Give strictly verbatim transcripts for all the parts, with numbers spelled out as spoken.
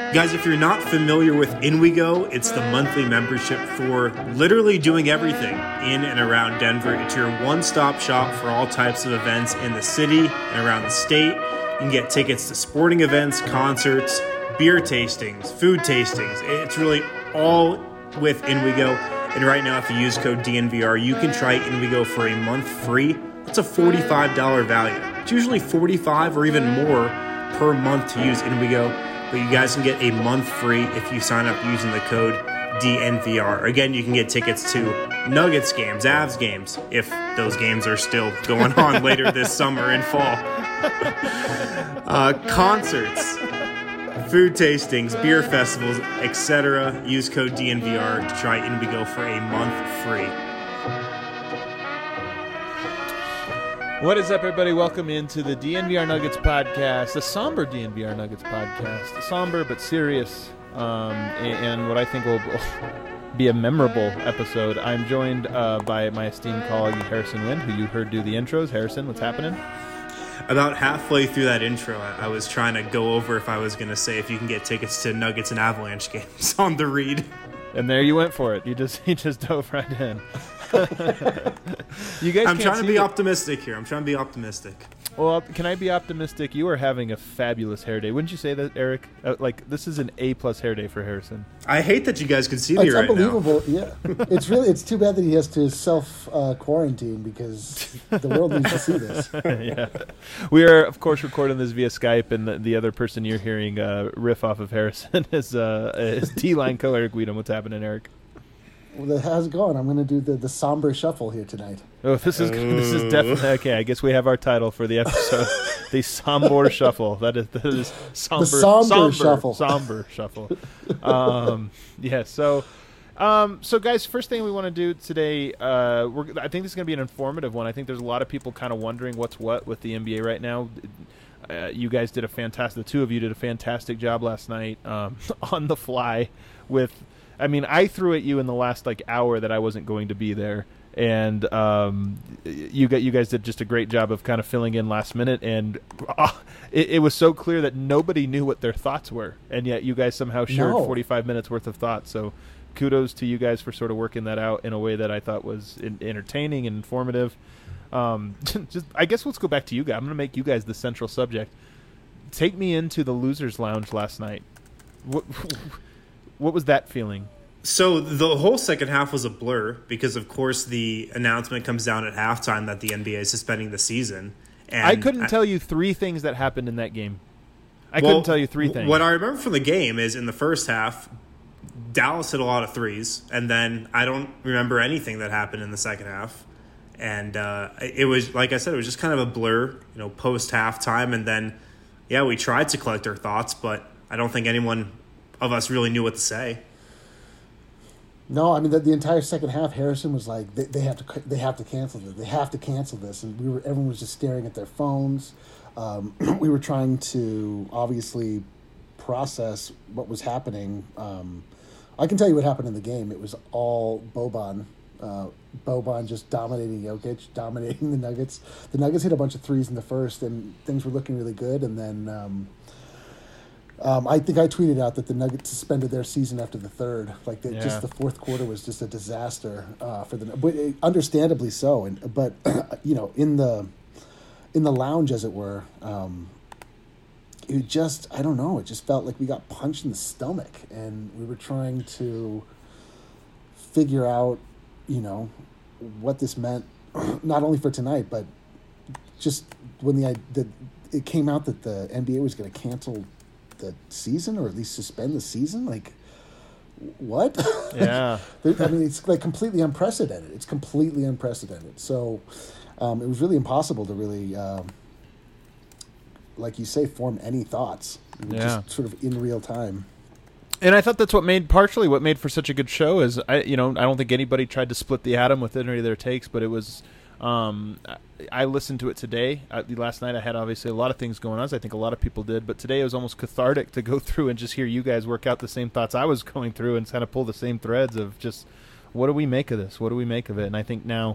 Guys, if you're not familiar with InWeGo, it's the monthly membership for literally doing everything in and around Denver. It's your one-stop shop for all types of events in the city and around the state. You can get tickets to sporting events, concerts, beer tastings, food tastings. It's really all with InWeGo. And right now, if you use code D N V R, you can try InWeGo for a month free. That's a forty-five dollars value. It's usually forty-five dollars or even more per month to use InWeGo. But you guys can get a month free if you sign up using the code D N V R. Again, you can get tickets to Nuggets games, Avs games, if those games are still going on later this summer and fall. Uh, concerts, food tastings, beer festivals, et cetera. Use code D N V R to try InWeGo for a month free. What is up, everybody? Welcome into the D N V R Nuggets podcast, the somber D N V R Nuggets podcast, somber but serious, um, and, and what I think will be a memorable episode. I'm joined uh, by my esteemed colleague Harrison Wind, who you heard do the intros. Harrison, what's happening? About halfway through that intro, I, I was trying to go over if I was going to say if you can get tickets to Nuggets and Avalanche games on the read. And there you went for it. You just you just dove right in. You guys I'm can't trying to be it. optimistic here. I'm trying to be optimistic. Well, can I be optimistic? You are having a fabulous hair day. Wouldn't you say that, Eric? Uh, like, this is an A-plus hair day for Harrison. I hate that you guys can see me it's right now. It's unbelievable. Yeah. It's really, it's too bad that he has to self-quarantine uh, because the world needs to see this. Yeah. We are, of course, recording this via Skype, and the, the other person you're hearing uh, riff off of Harrison is, uh, is D-line co Eric Weedham. What's happening, Eric? Well, how's it going? I'm going to do the, the somber shuffle here tonight. Oh, this is Ooh. this is definitely okay. I guess we have our title for the episode: the somber shuffle. That is that is somber, the somber, somber shuffle. Somber shuffle. Um, yeah. So, um, so guys, first thing we want to do today, uh, we're, I think this is going to be an informative one. I think there's a lot of people kind of wondering what's what with the N B A right now. Uh, you guys did a fantastic. The two of you did a fantastic job last night um, on the fly with. I mean, I threw at you in the last like hour that I wasn't going to be there, and um, you got you guys did just a great job of kind of filling in last minute, and uh, it, it was so clear that nobody knew what their thoughts were, and yet you guys somehow shared no. forty-five minutes worth of thoughts. So, kudos to you guys for sort of working that out in a way that I thought was in, entertaining and informative. Um, just, I guess let's go back to you guys. I'm going to make you guys the central subject. Take me into the Losers Lounge last night. What? What was that feeling? So the whole second half was a blur because, of course, the announcement comes down at halftime that the N B A is suspending the season. And I couldn't I, tell you three things that happened in that game. I well, couldn't tell you three things. What I remember from the game is in the first half, Dallas hit a lot of threes, and then I don't remember anything that happened in the second half. And uh, it was, like I said, it was just kind of a blur, you know, post-halftime. And then, yeah, we tried to collect our thoughts, but I don't think anyone of us really knew what to say. No, I mean the, the entire second half, Harrison was like, they, they have to, they have to cancel this. They have to cancel this, and we were, everyone was just staring at their phones. Um, we were trying to obviously process what was happening. Um, I can tell you what happened in the game. It was all Boban. Uh, Boban just dominating Jokic, dominating the Nuggets. The Nuggets hit a bunch of threes in the first, and things were looking really good, and then. Um, Um, I think I tweeted out that the Nuggets suspended their season after the third. Like the, yeah. just the fourth quarter was just a disaster uh, for the, but it, understandably so. And but you know, in the in the lounge, as it were, um, it just I don't know. It just felt like we got punched in the stomach, and we were trying to figure out, you know, what this meant, not only for tonight, but just when the the it came out that the N B A was going to cancel the season, or at least suspend the season. Like, what? Yeah. I mean, it's like completely unprecedented. It's completely unprecedented. So um, it was really impossible to really, um, like you say, form any thoughts. We were yeah. just sort of in real time. And I thought that's what made, partially what made for such a good show is, I, you know, I don't think anybody tried to split the atom with any of their takes, but it was, um, I listened to it today. Uh, last night I had obviously a lot of things going on, as I think a lot of people did, but today it was almost cathartic to go through and just hear you guys work out the same thoughts I was going through and kind of pull the same threads of just, what do we make of this? What do we make of it? And I think now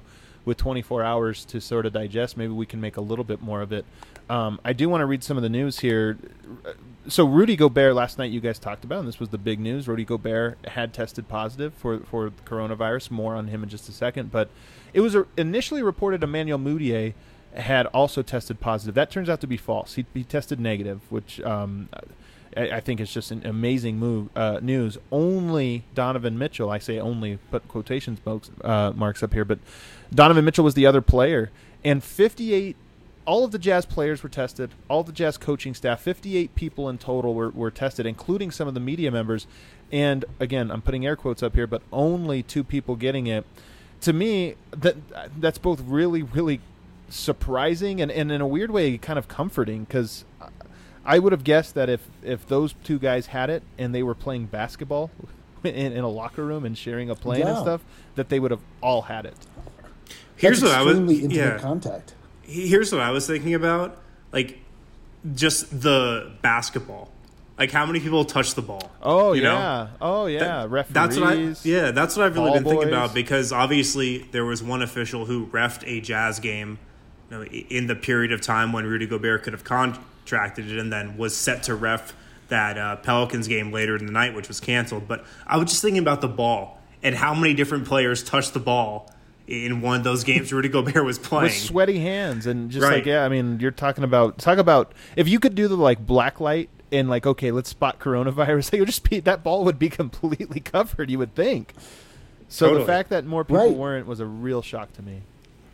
with twenty-four hours to sort of digest, maybe we can make a little bit more of it. Um, I do want to read some of the news here. So Rudy Gobert, last night you guys talked about, and this was the big news, Rudy Gobert had tested positive for, for coronavirus. More on him in just a second. But it was initially reported Emmanuel Mudiay had also tested positive. That turns out to be false. He, he tested negative, which um, I, I think is just an amazing move, uh, news. Only Donovan Mitchell, I say only, put quotations marks, uh, marks up here, but Donovan Mitchell was the other player. And fifty-eight all of the Jazz players were tested, all the Jazz coaching staff, fifty-eight people in total were, were tested, including some of the media members. And, again, I'm putting air quotes up here, but only two people getting it. To me, that that's both really, really surprising and, and in a weird way kind of comforting, because I would have guessed that if, if those two guys had it and they were playing basketball in, in a locker room and sharing a plane yeah. and stuff, that they would have all had it. Here's That's what I was intimate yeah. contact. Here's what I was thinking about, like, just the basketball. Like, how many people touch the ball? Oh, you yeah. know? Oh, yeah. That, Referees. That's what I, yeah, that's what I've really ball been thinking boys. about, because obviously there was one official who reffed a Jazz game, you know, in the period of time when Rudy Gobert could have contracted it, and then was set to ref that uh, Pelicans game later in the night, which was canceled. But I was just thinking about the ball and how many different players touched the ball in one of those games Rudy Gobert was playing. With sweaty hands and just Right. like, yeah, I mean, you're talking about, talk about, if you could do the like black light and like, okay, let's spot coronavirus, it would just be, that ball would be completely covered, you would think. So Totally. the fact that more people Right. weren't was a real shock to me.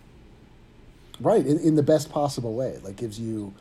Right, in, in the best possible way. Like, gives you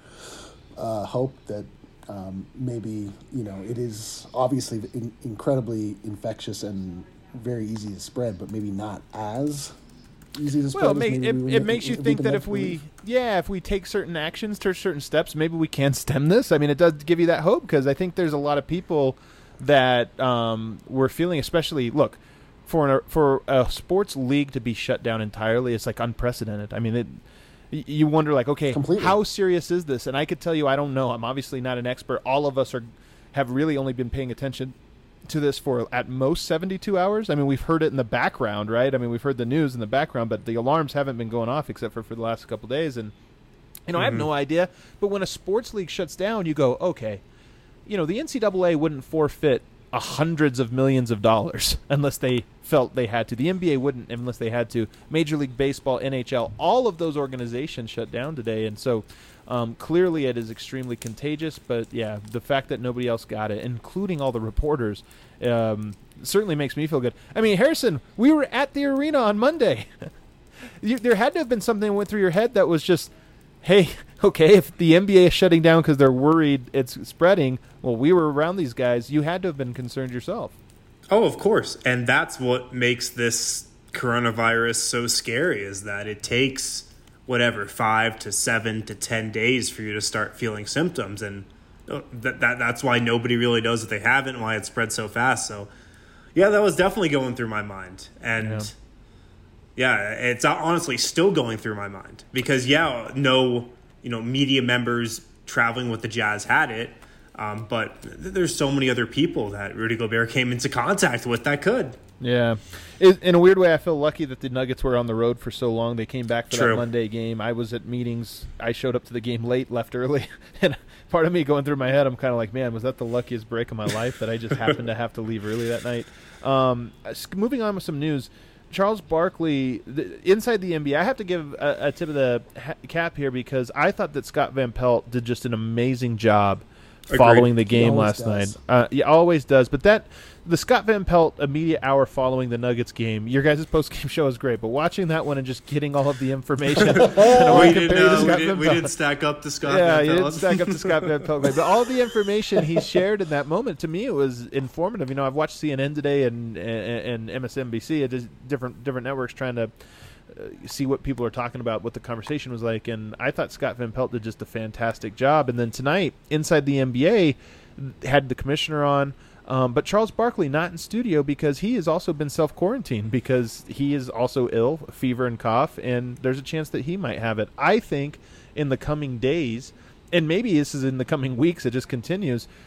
uh, hope that um, maybe, you know, it is obviously in, incredibly infectious and very easy to spread, but maybe not as easy to spread. Well, it, as make, maybe it, we would it make- makes you we think could that make if we, believe. yeah, if we take certain actions, take certain steps, maybe we can stem this. I mean, it does give you that hope, because I think there's a lot of people that um, were feeling, especially, look, for an, for a sports league to be shut down entirely, it's like unprecedented. I mean, it, y- you wonder, like, okay, Completely. how serious is this? And I could tell you, I don't know. I'm obviously not an expert. All of us are have really only been paying attention to this for at most seventy-two hours. I mean, we've heard it in the background, right? I mean, we've heard the news in the background, but the alarms haven't been going off except for for the last couple of days. And, you know, I have no idea. But when a sports league shuts down, you go, okay, you know, the N C double A wouldn't forfeit a hundreds of millions of dollars unless they felt they had to. The N B A wouldn't unless they had to. Major League Baseball, N H L, all of those organizations shut down today. And so um, clearly it is extremely contagious. But, yeah, the fact that nobody else got it, including all the reporters, um, certainly makes me feel good. I mean, Harrison, we were at the arena on Monday. you, there had to have been something that went through your head that was just, hey, okay, if the N B A is shutting down because they're worried it's spreading, well, we were around these guys. You had to have been concerned yourself. Oh, of course. And that's what makes this coronavirus so scary, is that it takes whatever, five to seven to ten days for you to start feeling symptoms. And that, that that's why nobody really knows that they haven't, and why it spread so fast. So, yeah, that was definitely going through my mind. And, yeah, yeah it's honestly still going through my mind. Because, yeah, no, you know, media members traveling with the Jazz had it. Um, but th- there's so many other people that Rudy Gobert came into contact with that could. Yeah. It, in a weird way, I feel lucky that the Nuggets were on the road for so long. They came back for True. that Monday game. I was at meetings. I showed up to the game late, left early. And part of me going through my head, I'm kind of like, man, was that the luckiest break of my life that I just happened to have to leave early that night? Um, moving on with some news. Charles Barkley, the, inside the N B A, I have to give a, a tip of the ha- cap here, because I thought that Scott Van Pelt did just an amazing job Agreed. following the game always last does. night. Uh, he always does. But that the Scott Van Pelt immediate hour following the Nuggets game, your guys' post-game show is great, but watching that one and just getting all of the information. and I wanna We compare didn't, you to uh, we, Scott didn't, Van we Pelt. didn't stack up to Scott Yeah, Van you didn't Pelt. stack up to Scott Van Pelt. But all the information he shared in that moment, to me, it was informative. You know, I've watched C N N today and and, and M S N B C, it is different different networks trying to uh, see what people are talking about, what the conversation was like. And I thought Scott Van Pelt did just a fantastic job. And then tonight, inside the N B A, had the commissioner on. Um, but Charles Barkley not in studio because he has also been self-quarantined because he is also ill, fever and cough, and there's a chance that he might have it. I think in the coming days, and maybe this is in the coming weeks, it just continues,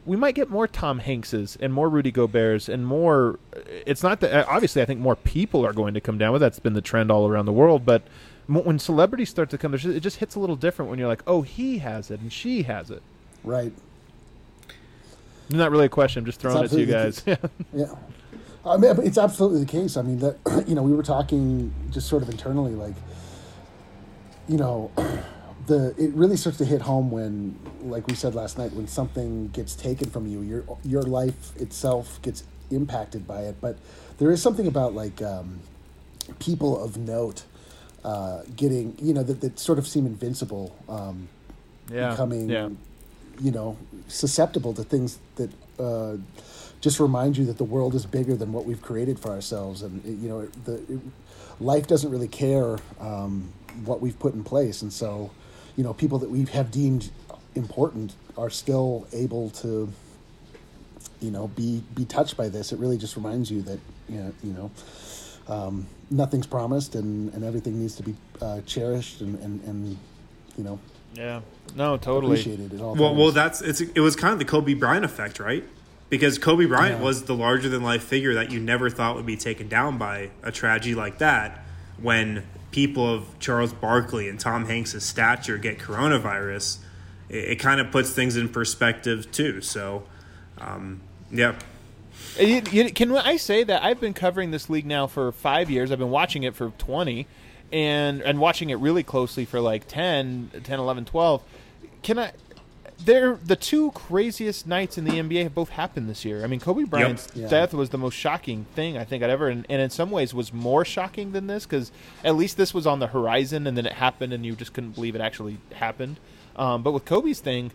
we might get more Tom Hankses and more Rudy Goberts and more. It's not that obviously I think more people are going to come down with that's been the trend all around the world, but when celebrities start to come, it just hits a little different when you're like, oh, he has it and she has it. Right. Not really a question. I'm just throwing it to you guys. yeah. yeah. I mean, it's absolutely the case. I mean, that you know, we were talking just sort of internally, like, you know, the it really starts to hit home when, like we said last night, when something gets taken from you, your your life itself gets impacted by it. But there is something about like um, people of note uh, getting, you know, that, that sort of seem invincible, um, yeah. becoming, yeah. you know, susceptible to things that uh, just remind you that the world is bigger than what we've created for ourselves, and it, you know, the it, life doesn't really care um, what we've put in place, and so, you know, people that we have deemed important are still able to, you know, be be touched by this. It really just reminds you that, you know, you know um, nothing's promised, and, and everything needs to be uh, cherished and, and, and, you know, yeah, no, totally appreciated at all well, times. well, that's it's it was kind of the Kobe Bryant effect, right? Because Kobe Bryant yeah. was the larger than life figure that you never thought would be taken down by a tragedy like that. When people of Charles Barkley and Tom Hanks' stature get coronavirus, it, it kind of puts things in perspective too. So, um, yeah. You, you, can I say that I've been covering this league now for five years? I've been watching it for twenty, and and watching it really closely for like ten, ten, eleven, twelve. Can I? They're the two craziest nights in the N B A have both happened this year. I mean, Kobe Bryant's yep. yeah. death was the most shocking thing I think I'd ever, and, and in some ways was more shocking than this because at least this was on the horizon and then it happened and you just couldn't believe it actually happened. Um, but with Kobe's thing,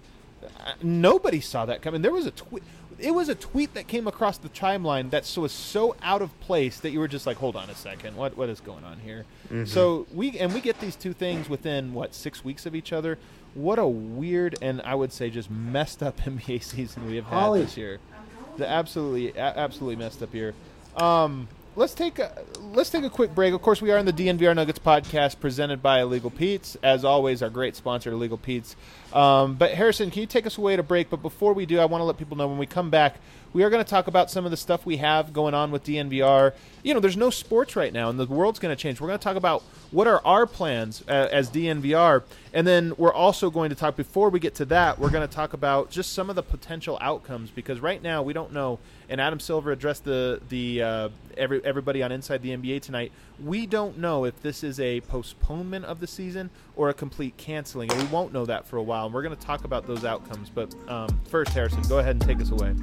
nobody saw that coming. There was a tweet. It was a tweet that came across the timeline that was so out of place that you were just like, "Hold on a second, what what is going on here?" Mm-hmm. So we and we get these two things within what six weeks of each other. What a weird and I would say just messed up N B A season we have had Holly. this year. The absolutely, absolutely messed up year. Um, let's take a, let's take a quick break. Of course, we are in the D N V R Nuggets podcast presented by Illegal Pete's. As always, our great sponsor, Illegal Pete's. Um, but Harrison, can you take us away to break? But before we do, I want to let people know when we come back, we are going to talk about some of the stuff we have going on with D N V R. You know, there's no sports right now, and the world's going to change. We're going to talk about what are our plans uh, as D N V R, and then we're also going to talk, before we get to that, we're going to talk about just some of the potential outcomes, because right now we don't know, and Adam Silver addressed the the uh, every everybody on Inside the N B A tonight. We don't know if this is a postponement of the season or a complete canceling, and we won't know that for a while, and we're going to talk about those outcomes. But um, first, Harrison, go ahead and take us away.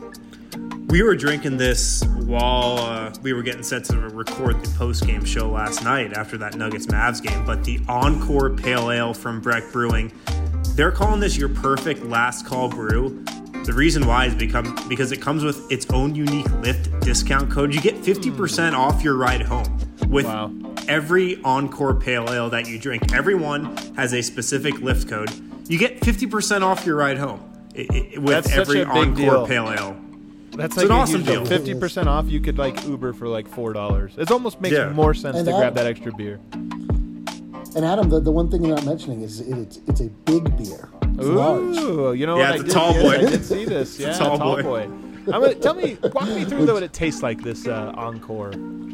We were drinking this while uh, we were getting set to record the post-game show last night after that Nuggets-Mavs game, but the Encore Pale Ale from Breck Brewing, they're calling this your perfect last call brew. The reason why is become, because it comes with its own unique Lyft discount code. You get fifty percent off your ride home with Wow. every Encore Pale Ale that you drink. Everyone has a specific Lyft code. You get fifty percent off your ride home it, it, with That's such every a big Encore deal. Pale Ale. That's It's like an a awesome huge deal. fifty percent off, you could like Uber for like four dollars. It almost makes Yeah. more sense And to that- grab that extra beer. And Adam, the, the one thing you're not mentioning is it, it's it's a big beer. It's large. Ooh, you know Yeah, what? it's I a did, tall yes, boy. I did see this. Yeah, It's a tall tall boy. boy. I'm gonna, tell me, walk me through though what it tastes like. This uh, Encore.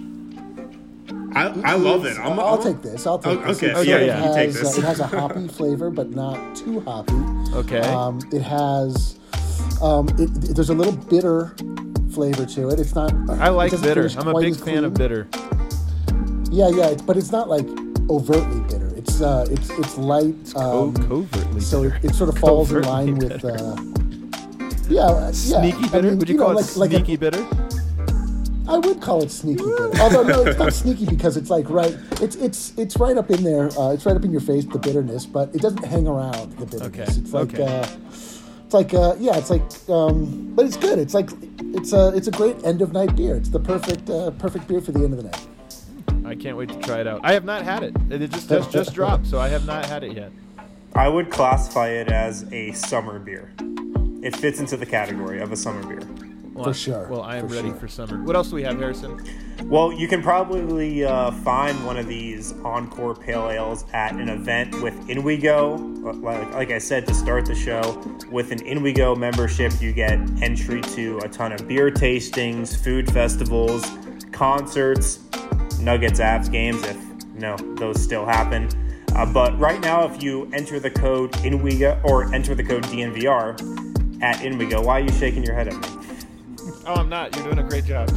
I, I love it. I'm, I'll I'm, take this. I'll take Oh, this. okay. It Oh, sort yeah, of yeah. You take has, this. Uh, it has a hoppy flavor, but not too hoppy. Okay. Um, it has. Um, it, it- there's a little bitter flavor to it. It's not. I like it doesn't bitter. finish I'm a quite big as fan of clean. bitter. Yeah, yeah, it- but it's not like overtly bitter. It's uh, it's it's light. Oh, Um, covertly so bitter. it, it sort of falls in Covertly line with. bitter. Uh, yeah, uh, yeah. Sneaky I bitter? mean, Would you, know, call it like, like a- sneaky bitter? I would call it sneaky bitter. Although no, it's not sneaky because it's like right. It's it's it's right up in there. Uh, it's right up in your face, the bitterness, but it doesn't hang around the bitterness. Okay, It's like okay. uh, it's like uh, yeah, it's like um, but it's good. It's like it's a it's a great end of night beer. It's the perfect uh, perfect beer for the end of the night. I can't wait to try it out. I have not had it. It just just, just dropped, so I have not had it yet. I would classify it as a summer beer. It fits into the category of a summer beer. Well, for sure. Well, I am for ready sure. for summer. What else do we have, Harrison? Well, you can probably uh, find one of these Encore Pale Ales at an event with InWeGo. Like, like I said to start the show, with an InWeGo membership, you get entry to a ton of beer tastings, food festivals, concerts, Nuggets Avs games, if you know those still happen. Uh, but right now, if you enter the code InWeGo or enter the code D N V R at InWeGo, why are you shaking your head at me? Oh, I'm not. You're doing a great job.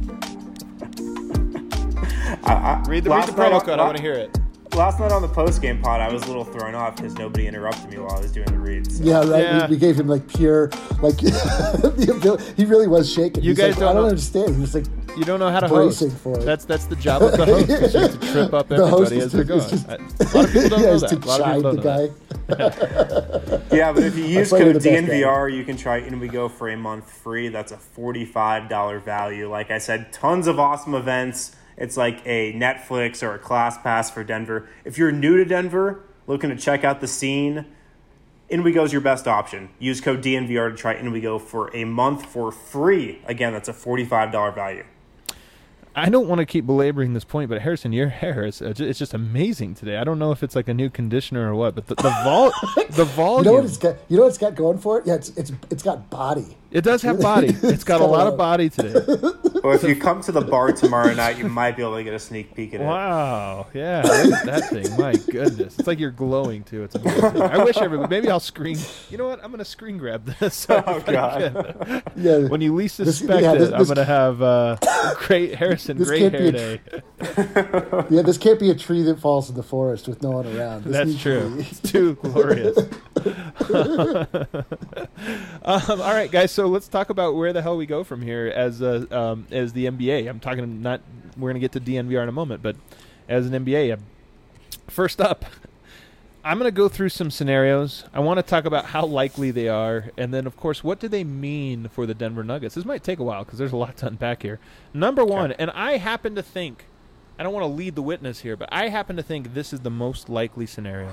I, I, Read the, read the promo code. I want to hear it. Last night on the post-game pod, I was a little thrown off because nobody interrupted me while I was doing the reads. So. Yeah, right. Yeah. We, we gave him like pure, like the ability. He really was shaking. You He's guys like, don't I don't know- understand. He was like, You don't know how to host. bracing for it. That's that's the job of the host. Is you have to trip up The host everybody is as they're to- going. is just- I- a lot of people don't yeah, know is that. to A lot of chide people the don't know that. guy. Yeah, but if you use play with code the best D N V R, you can try InWeGo for a month free. That's a forty-five dollars value. Like I said, tons of awesome events. It's like a Netflix or a Class Pass for Denver. If you're new to Denver, looking to check out the scene, InWeGo is your best option. Use code D N V R to try InWeGo for a month for free. Again, that's a forty-five dollars value. I don't want to keep belaboring this point, but Harrison, your hair is uh, ju- it's just amazing today. I don't know if it's like a new conditioner or what, but the the, vol- the volume. You know what it's got? You know what it's got going for it? Yeah, it's it's it's got body. It does have body. It's got a lot of body today. Well, if you come to the bar tomorrow night, you might be able to get a sneak peek at it. Wow. Yeah. Look at that thing. My goodness. It's like you're glowing too. It's amazing. I wish everybody. Maybe I'll screen. You know what? I'm gonna screen grab this. Oh, God. Yeah. When you least This- suspect yeah, this- it, I'm this- gonna have uh, great Harrison, This great can't be hair a day. Yeah, this can't be a tree that falls in the forest with no one around. This That's needs to true. be- It's too glorious. um, all right, guys. So let's talk about where the hell we go from here as uh, um, as the N B A. I'm talking not. We're gonna get to D N V R in a moment, but as an N B A, uh, first up, I'm gonna go through some scenarios. I want to talk about how likely they are, and then of course, what do they mean for the Denver Nuggets? This might take a while because there's a lot to unpack here. Number one, and I happen to think. I don't want to lead the witness here, but I happen to think this is the most likely scenario.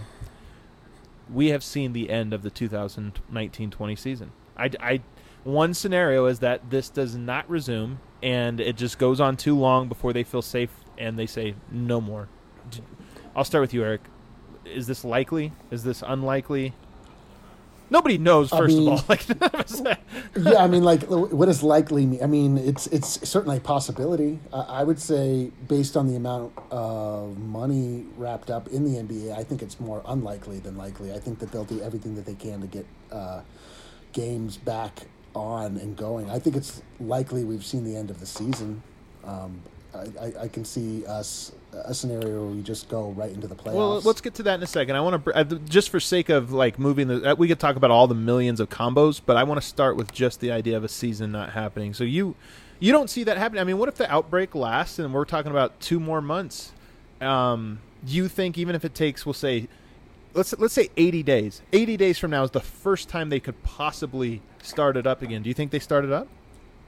We have seen the end of the two thousand nineteen twenty season. I, I, one scenario is that this does not resume, and it just goes on too long before they feel safe, and they say no more. D- I'll start with you, Eric. Is this likely? Is this unlikely? Nobody knows, I first mean- of all. Like, none of us- yeah, I mean, like, what does likely mean? I mean, it's it's certainly a possibility. Uh, I would say, based on the amount of money wrapped up in the N B A, I think it's more unlikely than likely. I think that they'll do everything that they can to get uh, games back on and going. I think it's likely we've seen the end of the season. Um, I, I, I can see us a scenario where we just go right into the playoffs. Well, let's get to that in a second. I want to, uh, just for sake of like moving the, uh, we could talk about all the millions of combos, but I want to start with just the idea of a season not happening. So you, you don't see that happening. I mean, what if the outbreak lasts and we're talking about two more months? Um, you think even if it takes, we'll say, let's let's say eighty days. eighty days from now is the first time they could possibly start it up again. Do you think they start it up?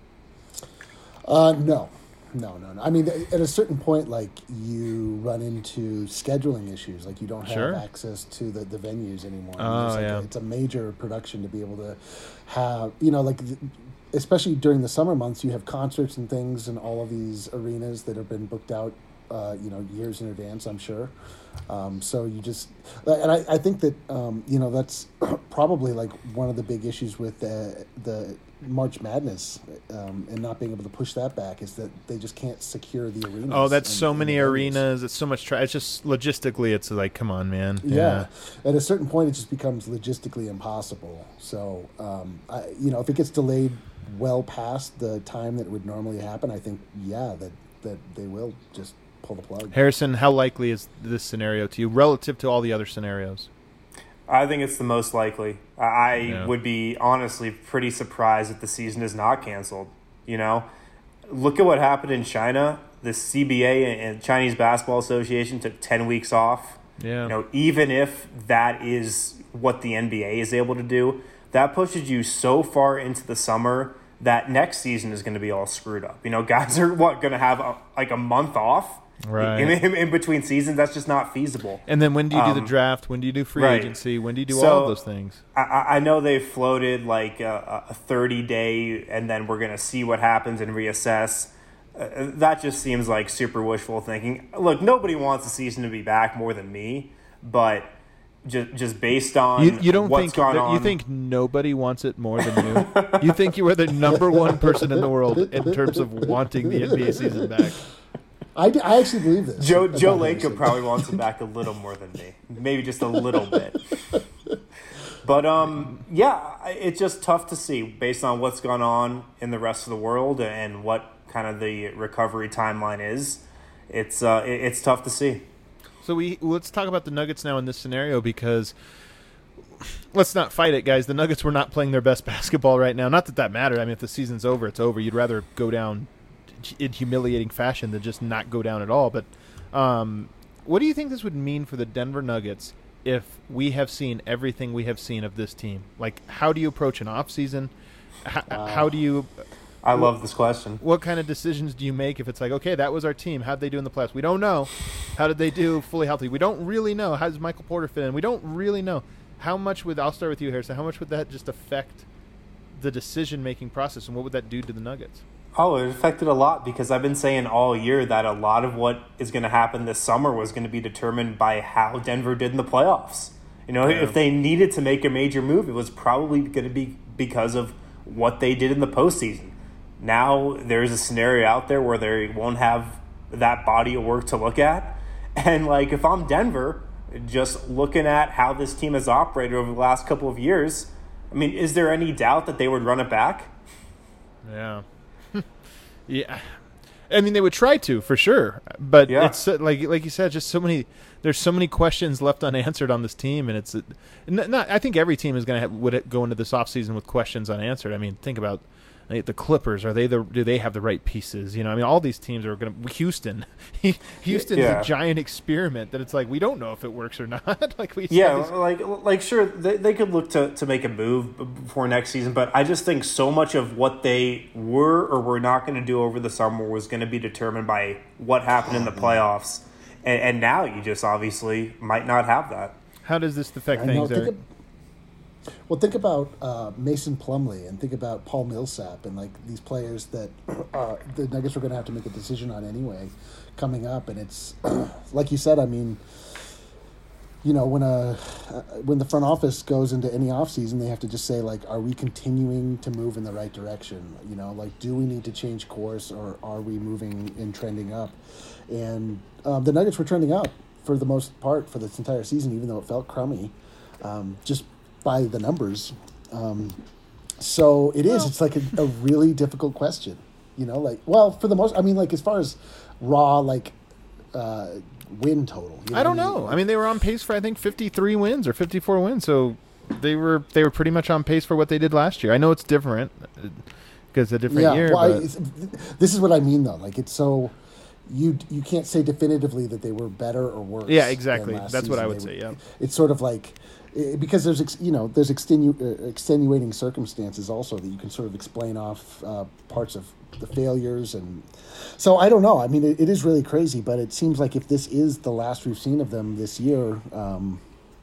Uh, no. No, no, no. I mean, at a certain point, like, you run into scheduling issues. Like, you don't have Sure. access to the, the venues anymore. I Oh, mean, it's like yeah. a, it's a major production to be able to have, you know, like, th- especially during the summer months, you have concerts and things in all of these arenas that have been booked out, uh, you know, years in advance, I'm sure. Um, so you just, and I, I think that, um, you know, that's probably like one of the big issues with the, the March Madness um, and not being able to push that back is that they just can't secure the arenas. Oh, that's and- so and many the venues. arenas. It's so much. Tra- it's just logistically, it's like, come on, man. Yeah. At a certain point, it just becomes logistically impossible. So, um, I, you know, if it gets delayed well past the time that it would normally happen, I think, yeah, that, that they will just pull the plug. Harrison, how likely is this scenario to you relative to all the other scenarios? I think it's the most likely. I Yeah. would be honestly pretty surprised if the season is not canceled. You know, look at what happened in China. The C B A and Chinese Basketball Association took ten weeks off. Yeah. You know, even if that is what the N B A is able to do, that pushes you so far into the summer that next season is going to be all screwed up. You know, guys are what going to have a, like a month off. Right. In, in, in between seasons, that's just not feasible. And then when do you do Um, the draft? When do you do free right. agency? When do you do So, all of those things? I, I know they've floated like a, a thirty-day, and then we're going to see what happens and reassess. Uh, that just seems like super wishful thinking. Look, nobody wants the season to be back more than me, but just just based on You, you don't what's think gone that, on. you think nobody wants it more than you? You think you are the number one person in the world in terms of wanting the N B A season back? I, d- I actually believe this. Joe about Joe Harrison. Lacob probably wants it back a little more than me, maybe just a little bit. But um, yeah, it's just tough to see based on what's gone on in the rest of the world and what kind of the recovery timeline is. It's uh, it, it's tough to see. So we let's talk about the Nuggets now in this scenario, because let's not fight it, guys. The Nuggets were not playing their best basketball right now. Not that that mattered. I mean, if the season's over, it's over. You'd rather go down in humiliating fashion than just not go down at all. But um, what do you think this would mean for the Denver Nuggets if we have seen everything we have seen of this team? Like, how do you approach an off season? How, Wow. how do you? I love this question. What kind of decisions do you make if it's like, okay, that was our team. How'd they do in the playoffs? We don't know. How did they do fully healthy? We don't really know. How does Michael Porter fit in? We don't really know. How much would, I'll start with you, Harrison, how much would that just affect the decision-making process, and what would that do to the Nuggets? Oh, it affected a lot because I've been saying all year that a lot of what is going to happen this summer was going to be determined by how Denver did in the playoffs. You know, Yeah. if they needed to make a major move, it was probably going to be because of what they did in the postseason. Now there's a scenario out there where they won't have that body of work to look at. And, like, if I'm Denver, just looking at how this team has operated over the last couple of years, I mean, is there any doubt that they would run it back? Yeah. Yeah. I mean, they would try to, for sure. But Yeah. it's uh, like like you said, just so many there's so many questions left unanswered on this team, and it's uh, n- not I think every team is going to would go into this offseason with questions unanswered. I mean, think about like, the Clippers. Are they the do they have the right pieces? You know, I mean, all these teams are going to Houston. Houston's Yeah. a giant experiment that it's like we don't know if it works or not. Like we Yeah, said, like like sure they, they could look to, to make a move before next season, but I just think so much of what they were or were not going to do over the summer was going to be determined by what happened in the playoffs, and, and now you just obviously might not have that. how does this affect I know, things? think Eric? of- well, think about uh, Mason Plumlee and think about Paul Millsap and like these players that uh, the Nuggets were going to have to make a decision on anyway coming up. And it's like you said, I mean, you know, when a uh, when the front office goes into any offseason, they have to just say, like, are we continuing to move in the right direction? You know, like, do we need to change course or are we moving and trending up? And um, the Nuggets were trending up for the most part for this entire season, even though it felt crummy. Um, just by the numbers. Um, so it is, it's like a, a really difficult question, you know, like, well, for the most, I mean, like as far as raw, like, uh, win total. You know I don't what mean? know. I mean, they were on pace for I think fifty-three wins or fifty-four wins, so they were they were pretty much on pace for what they did last year. I know it's different because it's a different yeah, year. well, I, but it's, this is what I mean though. Like it's so, you you can't say definitively that they were better or worse. Yeah, than exactly. last That's what I season. would They say, were- yeah. It's sort of like, eh, because there's, ex, you know, there's extenu, uh, extenuating circumstances also that you can sort of explain off uh, parts of the failures. And so I don't know. I mean, it, it is really crazy, but it seems like if this is the last we've seen of them this year, um,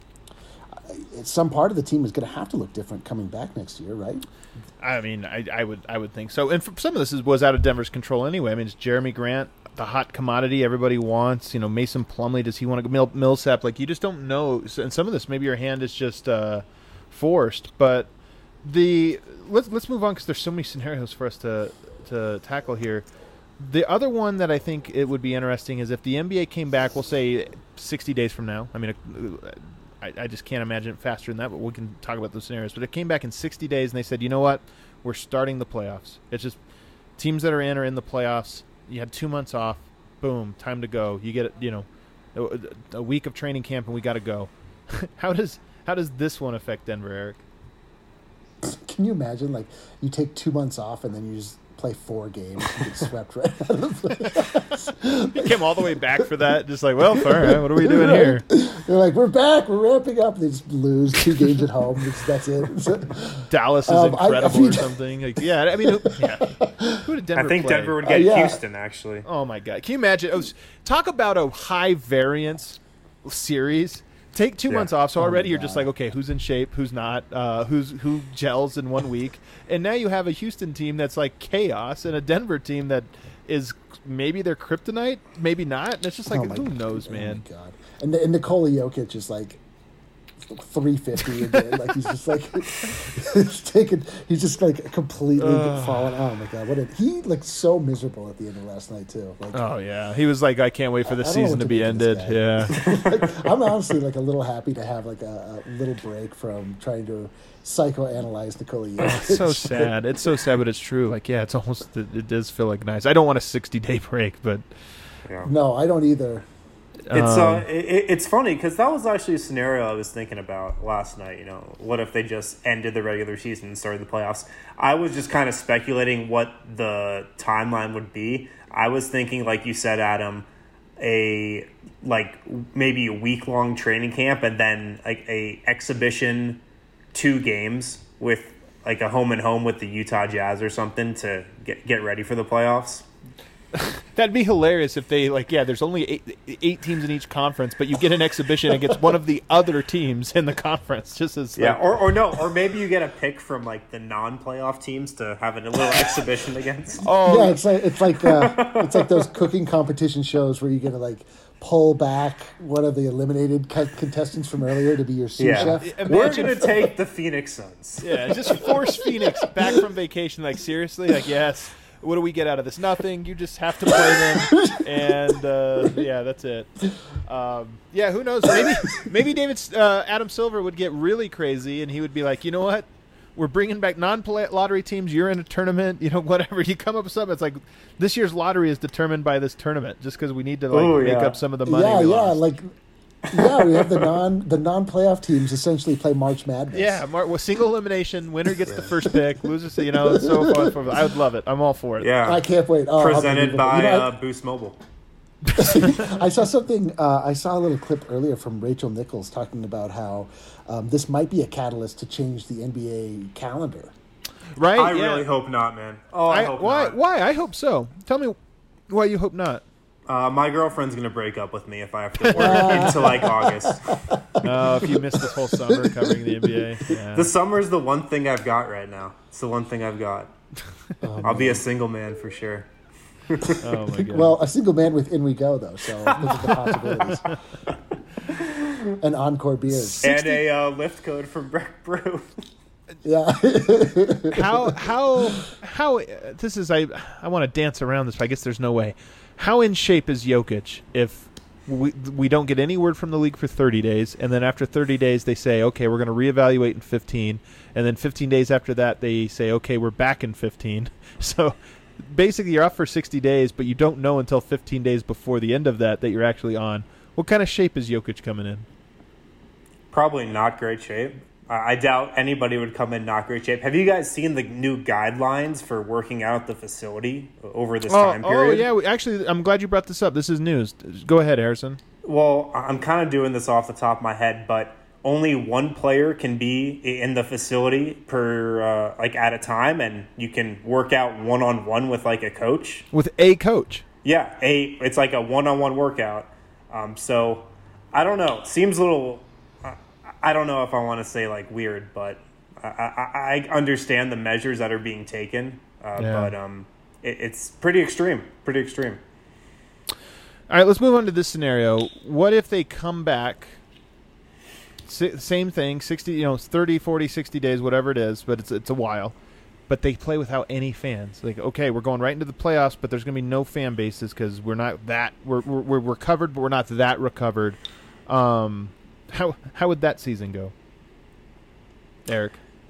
I- some part of the team is going to have to look different coming back next year, right? I mean, I, I would I would think so. And for, some of this is, was out of Denver's control anyway. I mean, it's Jeremy Grant, the hot commodity everybody wants. You know, Mason Plumlee, does he want to go? Mill, Millsap, like you just don't know. So, and some of this, maybe your hand is just uh, forced. But the let's let's move on because there's so many scenarios for us to to tackle here. The other one that I think it would be interesting is if the N B A came back, we'll say sixty days from now. I mean, I, I just can't imagine it faster than that, but we can talk about those scenarios. But it came back in sixty days, and they said, you know what? We're starting the playoffs. It's just teams that are in are in the playoffs. You had two months off. Boom, time to go. You get, you know, a, a week of training camp, and we got to go. how does how does this one affect Denver, Eric? Can you imagine, like, you take two months off and then you just play four games and get swept right out of the playoffs? You came all the way back for that, just like, well, all right, what are we doing here? They're like, we're back, we're ramping up. They just lose two games at home. It's, that's it. Dallas is Um, I- I incredible mean- or something. Like, yeah, I mean, yeah. Who did Denver I think play? Denver would Uh, get yeah. Houston, actually. Oh my God! Can you imagine? It was, talk about a high variance series. Take two Yeah. months off, so Oh already my you're just God. like, okay, who's in shape, who's not, uh, who's who gels in one week, and now you have a Houston team that's like chaos, and a Denver team that is maybe their kryptonite, maybe not. And it's just like, Oh my who God. knows, Oh man? my God. And, and Nikola Jokic is like three fifty again. Like he's just like he's taken. He's just like completely Ugh. fallen. Oh my God! What did he looked so miserable at the end of last night too? Like Oh yeah, he was like, I can't wait for the I don't know season what to to be do with this ended. guy. Yeah. I'm honestly like a little happy to have like a, a little break from trying to psychoanalyze Nikola Jokic. It's so sad. It's so sad, but it's true. Like, yeah, it's almost. It, it does feel like nice. I don't want a sixty day break, but Yeah. No, I don't either. It's um, uh, it, it's funny because that was actually a scenario I was thinking about last night. You know, what if they just ended the regular season and started the playoffs? I was just kind of speculating what the timeline would be. I was thinking, like you said, Adam, a like maybe a week long training camp and then like a exhibition, two games with like a home and home with the Utah Jazz or something to get get ready for the playoffs. That'd be hilarious if they like. Yeah, there's only eight, eight teams in each conference, but you get an exhibition against one of the other teams in the conference. Just as Yeah, like, or, or no, or maybe you get a pick from like the non-playoff teams to have a little exhibition against. oh Yeah, it's like it's like uh, it's like those cooking competition shows where you get to like pull back one of the eliminated co- contestants from earlier to be your sous Yeah, chef. we're Imagine- gonna take the Phoenix Suns. yeah, just force Phoenix back from vacation. Like seriously, like yes. What do we get out of this? Nothing. You just have to play them, and uh, yeah, that's it. Um, yeah, who knows? Maybe maybe David uh, Adam Silver would get really crazy, and he would be like, you know what? We're bringing back non-lottery teams. You're in a tournament, you know, whatever. You come up with something. It's like this year's lottery is determined by this tournament, just because we need to like Ooh, make yeah. up some of the money. Yeah, we yeah, lost. like yeah, we have the non the non playoff teams essentially play March Madness. Yeah, Mar- well, single elimination. Winner gets the first pick. Losers, you know, it's so fun. For, I would love it. I'm all for it. Yeah, I can't wait. Oh, presented unbelievable. by You know, uh, Boost Mobile. I, I saw something. Uh, I saw a little clip earlier from Rachel Nichols talking about how um, this might be a catalyst to change the N B A calendar. Right? I yeah. really hope not, man. Oh, I, I, hope why? not. Why? I hope so. Tell me why you hope not. Uh, my girlfriend's gonna break up with me if I have to work into like August. Oh, if you missed this whole summer covering the N B A. Yeah. The summer's the one thing I've got right now. It's the one thing I've got. Oh, I'll be a single man for sure. Oh my god. Well, a single man with In We Go though, so look at the possibilities. And Encore beers. And a uh, lift code from Breck Brew. Yeah. how how how uh, this is I I want to dance around this, but I guess there's no way. How in shape is Jokic if we we don't get any word from the league for thirty days, and then after thirty days they say, okay, we're going to reevaluate in fifteen, and then fifteen days after that they say, okay, we're back in fifteen. So basically you're off for sixty days, but you don't know until fifteen days before the end of that that you're actually on. What kind of shape is Jokic coming in? Probably not great shape. Uh, I doubt anybody would come in not great shape. Have you guys seen the new guidelines for working out at the facility over this Oh, time period? oh yeah, we, actually, I'm glad you brought this up. This is news. Go ahead, Harrison. Well, I'm kind of doing this off the top of my head, but only one player can be in the facility per uh, like at a time, and you can work out one on one with like a coach. With a coach. Yeah, a it's like a one on one workout. Um, so I don't know. Seems a little. Uh, I don't know if I want to say like weird, but I, I, I understand the measures that are being taken. Uh, Yeah. But um, it, it's pretty extreme. Pretty extreme. All right, let's move on to this scenario. What if they come back, si- same thing, sixty, you know, thirty, forty, sixty days, whatever it is, but it's it's a while, but they play without any fans. Like, okay, we're going right into the playoffs, but there's going to be no fan bases because we're not that, we're, we're, we're recovered, but we're not that recovered. Um, how how would that season go, Eric?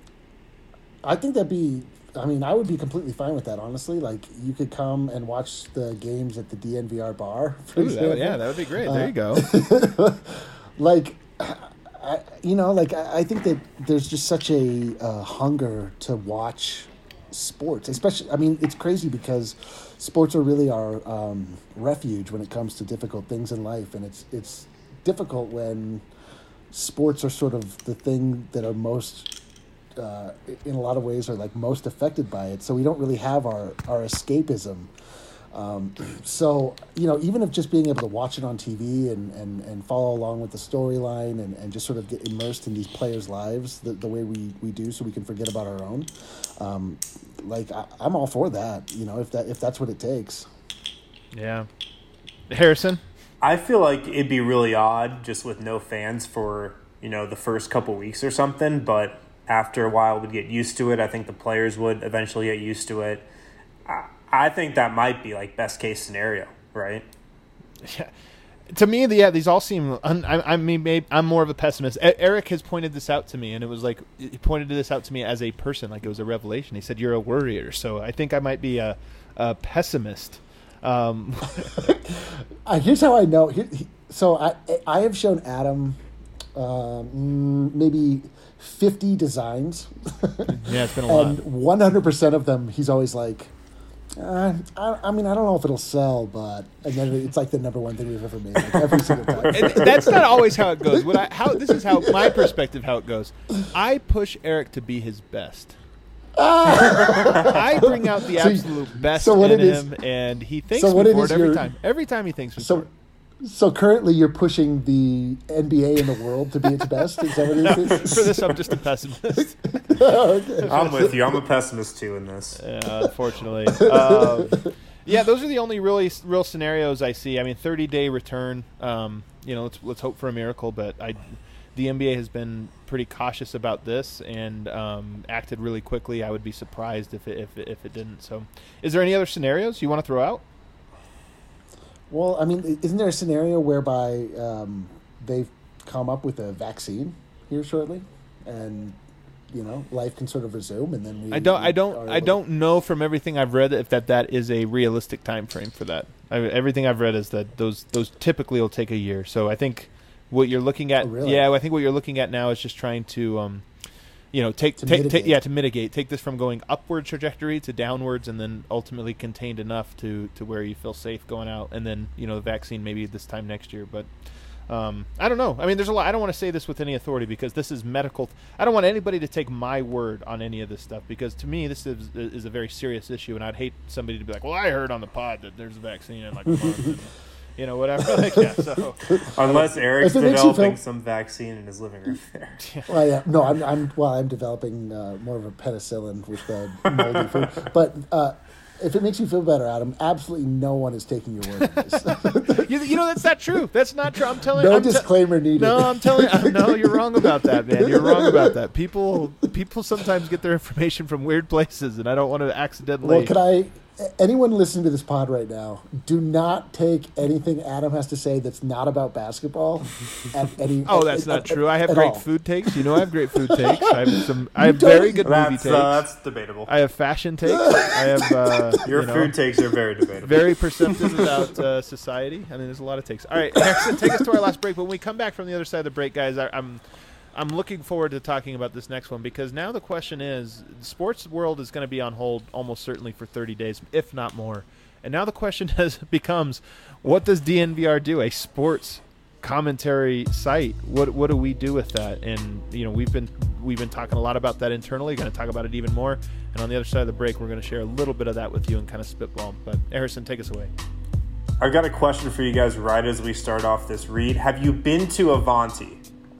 I think that'd be. I mean, I would be completely fine with that. Honestly, like you could come and watch the games at the D N V R bar. For Ooh, that, example. yeah, that would be great. There Uh, you go. Like, I, you know, like I, I think that there's just such a uh, hunger to watch sports, especially. I mean, it's crazy because sports are really our um, refuge when it comes to difficult things in life, and it's it's difficult when sports are sort of the thing that are most uh, in a lot of ways are like most affected by it. So we don't really have our our escapism. Um, so, you know, even if just being able to watch it on T V and, and, and follow along with the storyline and, and just sort of get immersed in these players' lives the, the way we, we do so we can forget about our own, um, like, I, I'm all for that, you know, if that if that's what it takes. Yeah. Harrison? I feel like it'd be really odd just with no fans for, you know, the first couple weeks or something, but after a while we'd get used to it. I think the players would eventually get used to it. I, I think that might be like best case scenario, right? Yeah. To me, the, yeah, these all seem. Un, I, I mean, maybe I'm more of a pessimist. E- Eric has pointed this out to me, and it was like he pointed this out to me as a person, like it was a revelation. He said, "You're a worrier," so I think I might be a, a pessimist. Um, uh, here's how I know. Here, he, so I I have shown Adam um, maybe fifty designs. Yeah, it's been a lot. And one hundred percent of them, he's always like, uh, I, I mean, I don't know if it'll sell, but and then it's like the number one thing we've ever made, like every single time. And that's not always how it goes. What I how this is how my perspective how it goes. I push Eric to be his best. I bring out the So- absolute best so what in it is- him, and he thanks so what me it for is it every you're- time. Every time he thanks me So, for it. so currently you're pushing the N B A in the world to be its best. Is that what it is? For this, I'm just a pessimist. Okay. I'm with you. I'm a pessimist too in this. Yeah, unfortunately. Um, yeah, those are the only really real scenarios I see. I mean, thirty-day return. Um, you know, let's let's hope for a miracle. But I, the N B A has been pretty cautious about this and um, acted really quickly. I would be surprised if it, if it, if it didn't. So, is there any other scenarios you want to throw out? Well, I mean, isn't there a scenario whereby um, they've come up with a vaccine here shortly, and you know, life can sort of resume, and then we. I don't. we I don't. are I able- don't know from everything I've read if that, that is a realistic time frame for that. I, everything I've read is that those those typically will take a year. So I think what you're looking at. Oh, really? Yeah, I think what you're looking at now is just trying to, um, you know, take To take, take mitigate. yeah to mitigate. Take this from going upward trajectory to downwards, and then ultimately contained enough to to where you feel safe going out, and then you know the vaccine maybe this time next year, but. Um, I don't know. I mean, there's a lot. I don't want to say this with any authority because this is medical. I don't want anybody to take my word on any of this stuff because to me, this is is a very serious issue, and I'd hate somebody to be like, "Well, I heard on the pod that there's a vaccine in like a month," and, you know, whatever. Like, yeah, so Unless Eric's If it makes you developing feel- some vaccine in his living room there. Well, yeah, no, I'm, I'm well. I'm developing uh, more of a penicillin with the moldy food. But uh, if it makes you feel better, Adam, absolutely no one is taking your word on this. you, you know that's not true. That's not true. I'm telling. No I'm te- disclaimer needed. No, I'm telling. Uh, no, you're wrong about that, man. You're wrong about that. People, people sometimes get their information from weird places, and I don't want to accidentally. Well, could I? Anyone listening to this pod right now, do not take anything Adam has to say that's not about basketball. At any, Oh, at- that's at- not at- true. I have at great all. food takes. You know, I have great food takes. I have some. I have don't- very good movie That's, takes. uh, that's debatable. I have fashion takes. I have uh, Your you know, food takes are very debatable. very perceptive about uh, society. I mean, there's a lot of takes. All right, Harrison, take us to our last break. When we come back from the other side of the break, guys, I, I'm I'm looking forward to talking about this next one because now the question is, the sports world is going to be on hold almost certainly for thirty days, if not more. And now the question has becomes, what does D N V R do? A sports commentary site. What what do we do with that? And you know, we've been we've been talking a lot about that internally. Going to talk about it even more. And on the other side of the break, we're going to share a little bit of that with you and kind of spitball. But Harrison, take us away. I've got a question for you guys right as we start off this read. Have you been to Avanti?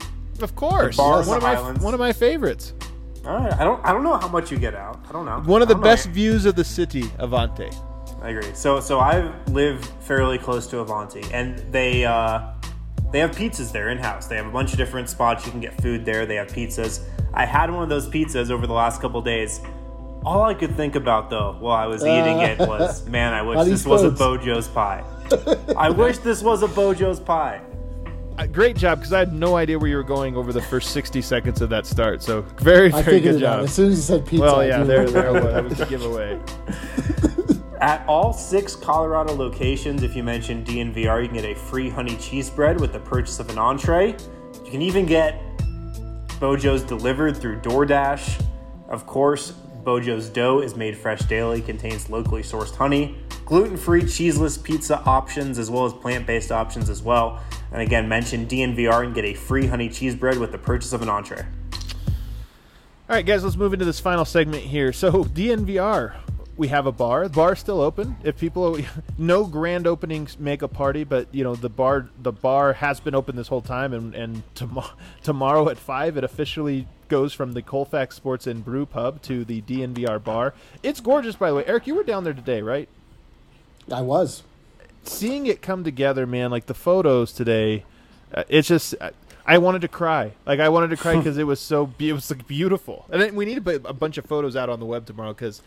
Of course, The bar in one of the my Highlands. one of my favorites. All right. I don't I don't know how much you get out. I don't know. One of the I don't know. best views of the city, Avante. I agree. So so I live fairly close to Avanti, and they uh, they have pizzas there in house. They have a bunch of different spots you can get food there. They have pizzas. I had one of those pizzas over the last couple days. All I could think about though while I was eating it was, man, I wish How this these was a foods. Bojo's pie. I wish this was a Bojo's pie. Uh, great job, because I had no idea where you were going over the first sixty seconds of that start. So very, I very figured good it out. job. As soon as you said pizza, Well, I yeah, knew there, it. there was. That was the giveaway. At all six Colorado locations, if you mention D N V R, you can get a free honey cheese bread with the purchase of an entree. You can even get Bojo's delivered through DoorDash. Of course, Bojo's dough is made fresh daily, contains locally sourced honey, gluten-free, cheeseless pizza options, as well as plant-based options as well. And again, mention D N V R and get a free honey cheese bread with the purchase of an entree. All right, guys, let's move into this final segment here. So, D N V R, we have a bar. The bar is still open. If people, no grand openings make a party, but you know the bar, the bar has been open this whole time, and and tom- tomorrow at five, it officially goes from the Colfax Sports and Brew Pub to the D N V R bar. It's gorgeous, by the way. Eric, you were down there today, right? I was. Seeing it come together, man, like the photos today, uh, it's just. Uh, I wanted to cry. Like, I wanted to cry because it was so be- it was like beautiful. And then we need to put a bunch of photos out on the web tomorrow because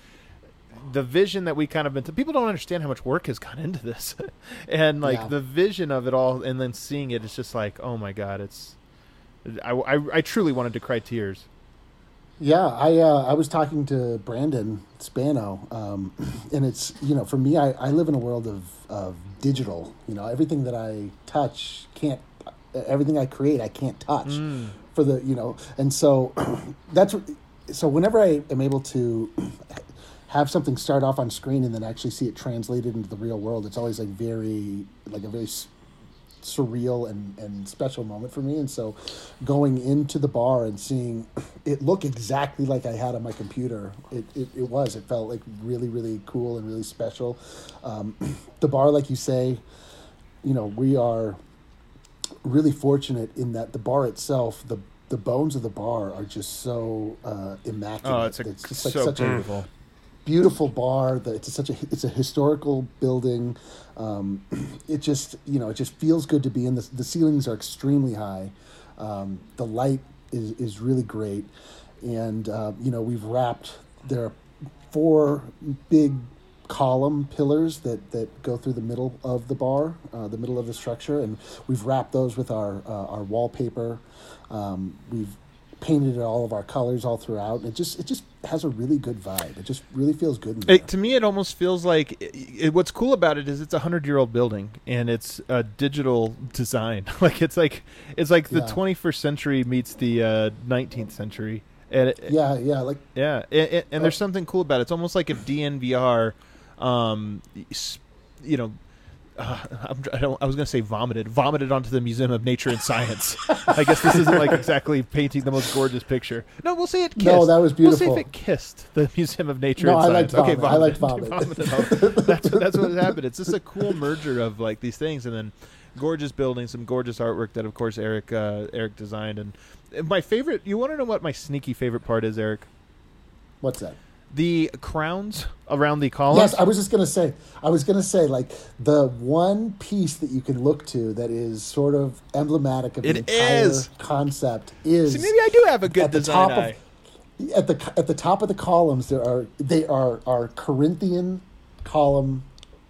the vision that we kind of been to, people don't understand how much work has gone into this. And, like, Yeah. the vision of it all and then seeing it, it's just like, oh, my God, it's I, I, I truly wanted to cry tears. Yeah, I uh, I was talking to Brandon Spano, um, and it's, you know, for me, I, I live in a world of, of digital. You know, everything that I touch can't, everything I create, I can't touch Mm. for the, you know, and so that's, so whenever I am able to have something start off on screen and then actually see it translated into the real world, it's always like very, like a very s- surreal and, and special moment for me. And so going into the bar and seeing it look exactly like I had on my computer, it, it, it was, it felt like really, really cool and really special. Um, the bar, like you say, you know, we are really fortunate in that the bar itself, the the bones of the bar are just so uh, immaculate. Oh, it's, a, just like so such beautiful. a beautiful bar. That it's a, such a it's a historical building. Um, it just you know it just feels good to be in. The the ceilings are extremely high. Um, the light is is really great, and uh, you know we've wrapped there are four big column pillars that, that go through the middle of the bar, uh, the middle of the structure, and we've wrapped those with our uh, our wallpaper. Um, we've painted all of our colors all throughout. It just it just has a really good vibe. It just really feels good in there. It, to me, it almost feels like it, it, what's cool about it is it's a hundred-year-old building and it's a digital design. Like it's like it's like the Yeah. twenty-first century meets the uh, nineteenth century. And it, yeah, yeah, like yeah, and, and, and there's something cool about it. It's almost like if D N V R, um, s- you know. Uh, I'm, I, don't, I was going to say vomited, vomited onto the Museum of Nature and Science. I guess this isn't like exactly painting the most gorgeous picture. No, we'll say it kissed. No, that was beautiful. We'll say if it kissed the Museum of Nature No, and I Science. liked Okay, vomit. I liked vomited. vomit. Vomited. that's, what, that's what happened. It's just a cool merger of like these things, and then gorgeous buildings, some gorgeous artwork that, of course, Eric uh, Eric designed. And and my favorite. You want to know what my sneaky favorite part is, Eric? what's that? The crowns around the columns. Yes, I was just gonna say. I was gonna say like the one piece that you can look to that is sort of emblematic of the It entire is. concept is. See, maybe I do have a good at the design top eye. of at the at the top of the columns there are they are are Corinthian column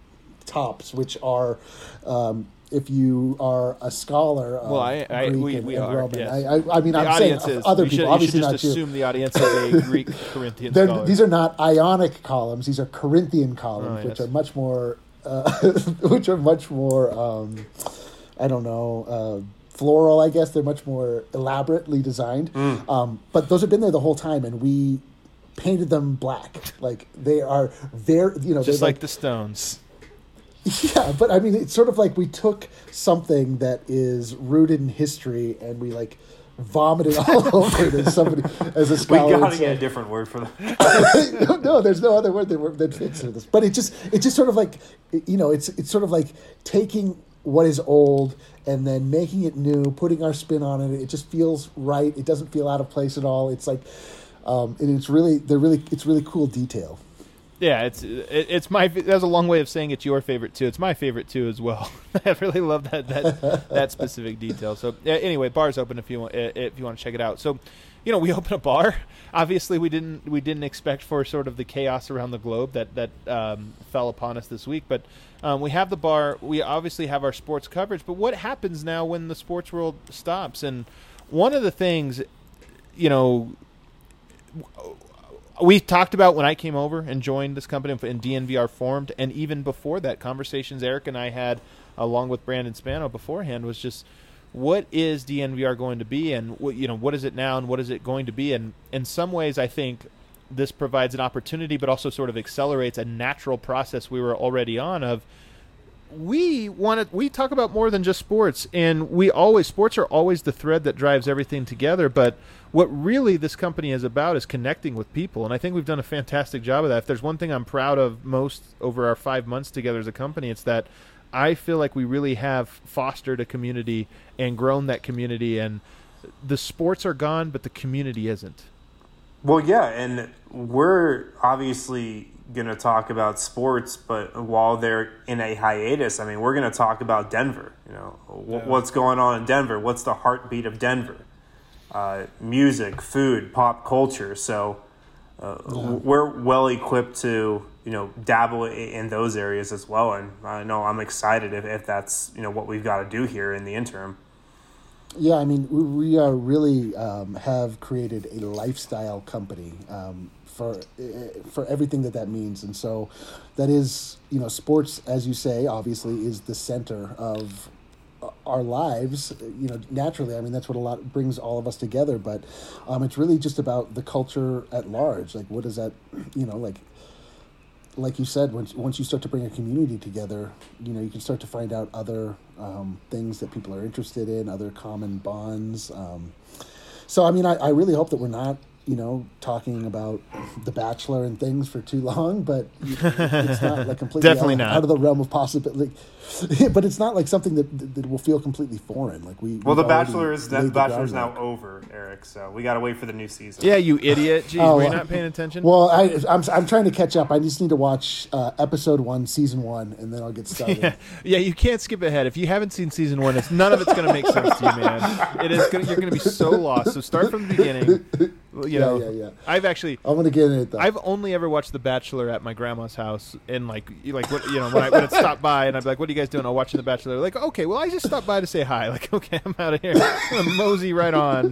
tops, which are. Um, if you are a scholar of Well, I- I- Greek we- and, we and are, Roman, yes. I, I, I mean, The I'm saying audience is. other you should, people, you obviously should not just you. assume the audience is a Greek Corinthian They're- scholar. These are not Ionic columns; these are Corinthian columns, Oh, which yes. are much more, uh, which are much more. Um, I don't know, uh, floral. I guess they're much more elaborately designed. Mm. Um, but those have been there the whole time, and we painted them black. Like they are very, you know, just they're like the Stones. yeah, but I mean, it's sort of like we took something that is rooted in history and we like vomited all over it as somebody as a We scholar. would gotta say. get a different word for that. no, no, there's no other word that, wor- that fits for this. But it just it's just sort of like you know, it's it's sort of like taking what is old and then making it new, putting our spin on it. It just feels right. It doesn't feel out of place at all. It's like, um, and it's really they're really it's really cool detail. Yeah, it's it, it's my. That's a long way of saying it's your favorite too. It's my favorite too as well. I really love that that that specific detail. So yeah, anyway, bar's open if you want if you want to check it out. So, you know, we open a bar. Obviously, we didn't we didn't expect for sort of the chaos around the globe that that um, fell upon us this week. But um, we have the bar. We obviously have our sports coverage. But what happens now when the sports world stops? And one of the things, you know. We talked about when I came over and joined this company and D N V R formed, and even before that, conversations Eric and I had along with Brandon Spano beforehand was just what is D N V R going to be, and what, you know, what is it now, and what is it going to be? And in some ways, I think this provides an opportunity, but also sort of accelerates a natural process we were already on of we want to, we talk about more than just sports, and we always, sports are always the thread that drives everything together, but what really this company is about is connecting with people, and I think we've done a fantastic job of that. If there's one thing I'm proud of most over our five months together as a company, it's that I feel like we really have fostered a community and grown that community, and the sports are gone, but the community isn't. Well, yeah, and we're obviously going to talk about sports, but while they're in a hiatus, I mean, we're going to talk about Denver. You know, w- Yeah. what's going on in Denver? What's the heartbeat of Denver? Uh, music, food, pop culture. So uh, Yeah. we're well equipped to, you know, dabble i- in those areas as well. And I know I'm excited if, if that's, you know, what we've got to do here in the interim. Yeah, I mean, we, we are really um, have created a lifestyle company um, for uh, for everything that that means, and so that is, you know, sports, as you say, obviously is the center of our lives. You know, naturally, I mean, that's what a lot brings all of us together. But um, it's really just about the culture at large. Like, what does that, you know, like. Like you said, once once you start to bring a community together, you know, you can start to find out other um, things that people are interested in, other common bonds. Um, so, I mean, I, I really hope that we're not, you know, talking about The Bachelor and things for too long, but it's not like completely Definitely out, not. out of the realm of possibility. But it's not like something that that will feel completely foreign. Like we. Well, The we've already Bachelor is laid the the Bachelor's now groundwork. over, Eric. So we got to wait for the new season. Yeah, you idiot. Jeez, Oh, were you uh, not paying attention? Well, I, I'm I'm trying to catch up. I just need to watch uh, episode one, season one, and then I'll get started. Yeah, yeah, you can't skip ahead. If you haven't seen season one, it's none of it's going to make sense to you, man. It is gonna, you're going to be so lost. So start from the beginning. You Yeah, know, yeah, yeah. I've actually, I'm gonna get in it though. I've only ever watched The Bachelor at my grandma's house, and like, you- like what you know, when I when it stopped by, and I'd be like, "What are you guys doing?" I'm watching The Bachelor. Like, okay, well, I just stopped by to say hi. Like, okay, I'm out of here. I'm gonna mosey right on.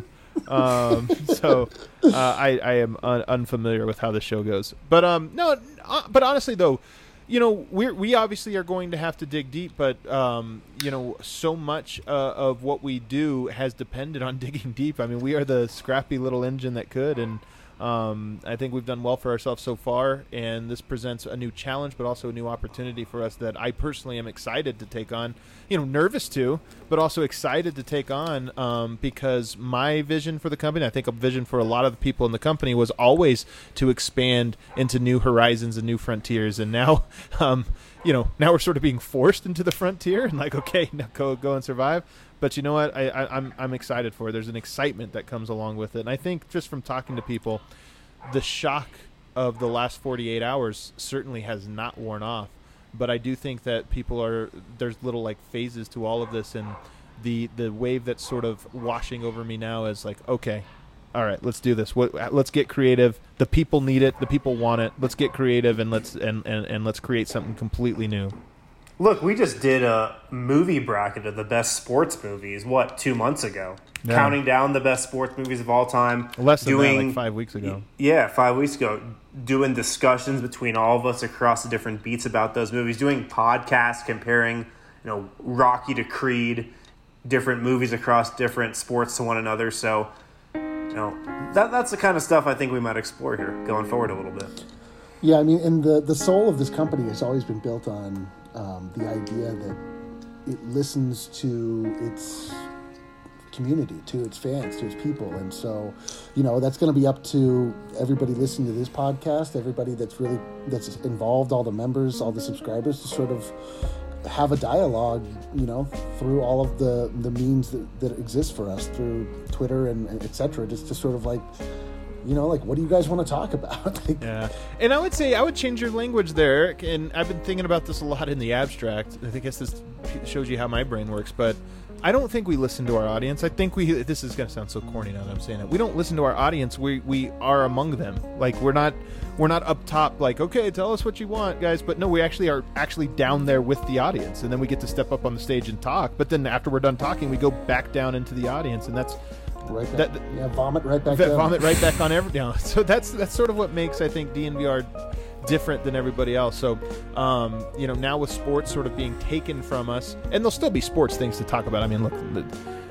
Um, so uh, I I am un- unfamiliar with how the show goes, but um, no, uh, but honestly though. You know, we we obviously are going to have to dig deep, but um, you know, so much uh, of what we do has depended on digging deep. I mean, we are the scrappy little engine that could, and um, I think we've done well for ourselves so far. And this presents a new challenge, but also a new opportunity for us that I personally am excited to take on. You know, nervous too, but also excited to take on um, because my vision for the company, I think a vision for a lot of the people in the company, was always to expand into new horizons and new frontiers. And now, um, you know, now we're sort of being forced into the frontier and like, okay, now go go and survive. But you know what? I, I, I'm I'm excited for it. There's an excitement that comes along with it, and I think just from talking to people, the shock of the last forty-eight hours certainly has not worn off. But I do think that people are there's little like phases to all of this, and the the wave that's sort of washing over me now is like, okay, all right, let's do this. What, let's get creative. The people need it. The people want it. Let's get creative and let's and, and, and let's create something completely new. Look, we just did a movie bracket of the best sports movies, what, two months ago? Yeah. Counting down the best sports movies of all time. Less than doing, that, like five weeks ago. Yeah, five weeks ago. Doing discussions between all of us across the different beats about those movies. Doing podcasts comparing, you know, Rocky to Creed, different movies across different sports to one another. So, you know, that that's the kind of stuff I think we might explore here going forward a little bit. Yeah, I mean, and the the soul of this company has always been built on um, the idea that it listens to its community, to its fans, to its people, and so, you know, that's going to be up to everybody listening to this podcast, everybody that's really that's involved, all the members, all the subscribers, to sort of have a dialogue, you know, through all of the the means that, that exist for us through Twitter and, and et cetera, just to sort of like, you know, like, what do you guys want to talk about? Like, Yeah, and I would say I would change your language there, Eric. And I've been thinking about this a lot in the abstract. I think guess this shows you how my brain works, but I don't think we listen to our audience. I think we. This is going to sound so corny now that I'm saying it. We don't listen to our audience. We we are among them. Like we're not we're not up top. Like, okay, tell us what you want, guys. But no, we actually are actually down there with the audience, and then we get to step up on the stage and talk. But then after we're done talking, we go back down into the audience, and that's. right back, That- yeah, vomit right back Vet down. vomit right back on every now. So that's that's sort of what makes I think D N V R different than everybody else. So um, you know, now with sports sort of being taken from us, and there'll still be sports things to talk about. I mean, look, the,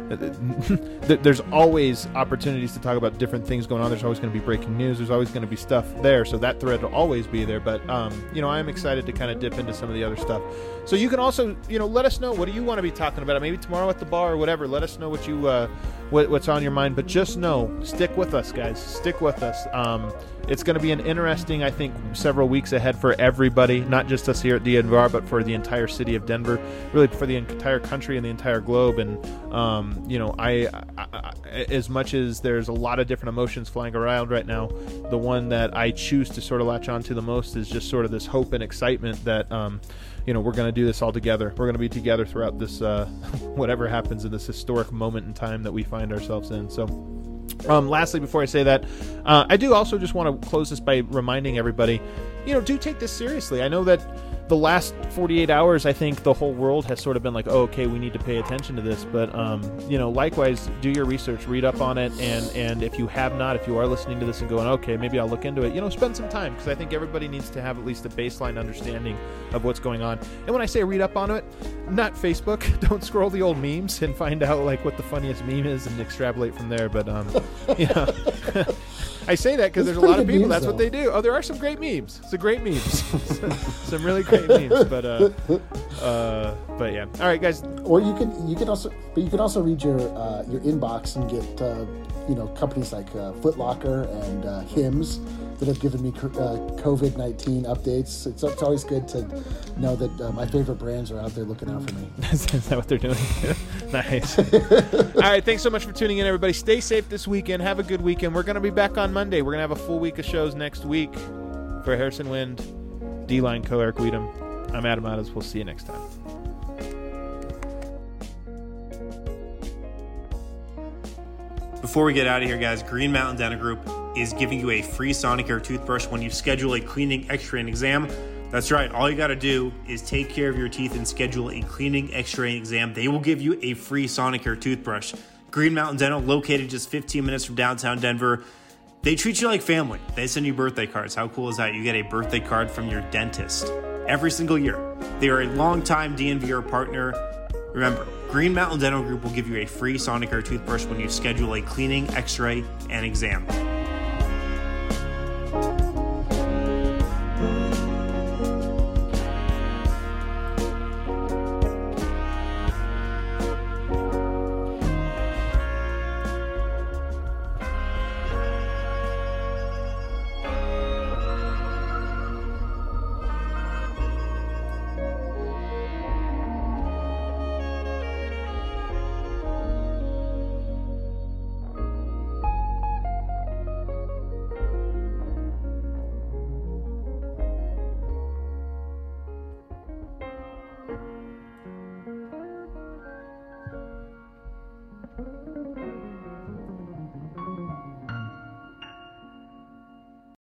there's always opportunities to talk about different things going on. There's always going to be breaking news. There's always going to be stuff there. So that thread will always be there. But, um, you know, I'm excited to kind of dip into some of the other stuff. So you can also, you know, let us know, what do you want to be talking about? Maybe tomorrow at the bar or whatever. Let us know what you, uh, what, what's on your mind. But just know, stick with us, guys. Stick with us. Um, it's going to be an interesting, I think, several weeks ahead for everybody, not just us here at D N V R, but for the entire city of Denver, really for the entire country and the entire globe. And, um, you know, I, I, I, as much as there's a lot of different emotions flying around right now, the one that I choose to sort of latch onto the most is just sort of this hope and excitement that, um, you know, we're going to do this all together. We're going to be together throughout this, uh, whatever happens in this historic moment in time that we find ourselves in. So, Um, lastly, before I say that, uh, I do also just want to close this by reminding everybody, you know, do take this seriously. I know that the last forty-eight hours, I think the whole world has sort of been like, oh, okay, we need to pay attention to this. But, um, you know, likewise, do your research, read up on it. And, and if you have not, if you are listening to this and going, okay, maybe I'll look into it, you know, spend some time, because I think everybody needs to have at least a baseline understanding of what's going on. And when I say read up on it, not Facebook. Don't scroll the old memes and find out like what the funniest meme is and extrapolate from there. But, um, yeah. I say that because there's a lot of people, memes, that's though. What they do. Oh, there are some great memes. Some great memes. Some really great memes. But uh, uh, but yeah. All right, guys. Or you can you can also but you can also read your uh, your inbox and get uh, you know companies like uh, Foot Locker and uh, Hims that have given me uh, COVID nineteen updates. It's, it's always good to know that uh, my favorite brands are out there looking out for me. Is that what they're doing? Nice. All right, thanks so much for tuning in, everybody. Stay safe this weekend. Have a good weekend. We're going to be back on Monday. We're going to have a full week of shows next week. For Harrison Wind, D-Line Co. Eric Weedham, I'm Adam Adams. We'll see you next time. Before we get out of here, guys, Green Mountain Dental Group is giving you a free Sonicare toothbrush when you schedule a cleaning, x-ray, and exam. That's right. All you got to do is take care of your teeth and schedule a cleaning, x-ray, and exam. They will give you a free Sonicare toothbrush. Green Mountain Dental, located just fifteen minutes from downtown Denver. They treat you like family. They send you birthday cards. How cool is that? You get a birthday card from your dentist every single year. They are a longtime D N V R partner. Remember, Green Mountain Dental Group will give you a free Sonicare toothbrush when you schedule a cleaning, x-ray, and exam.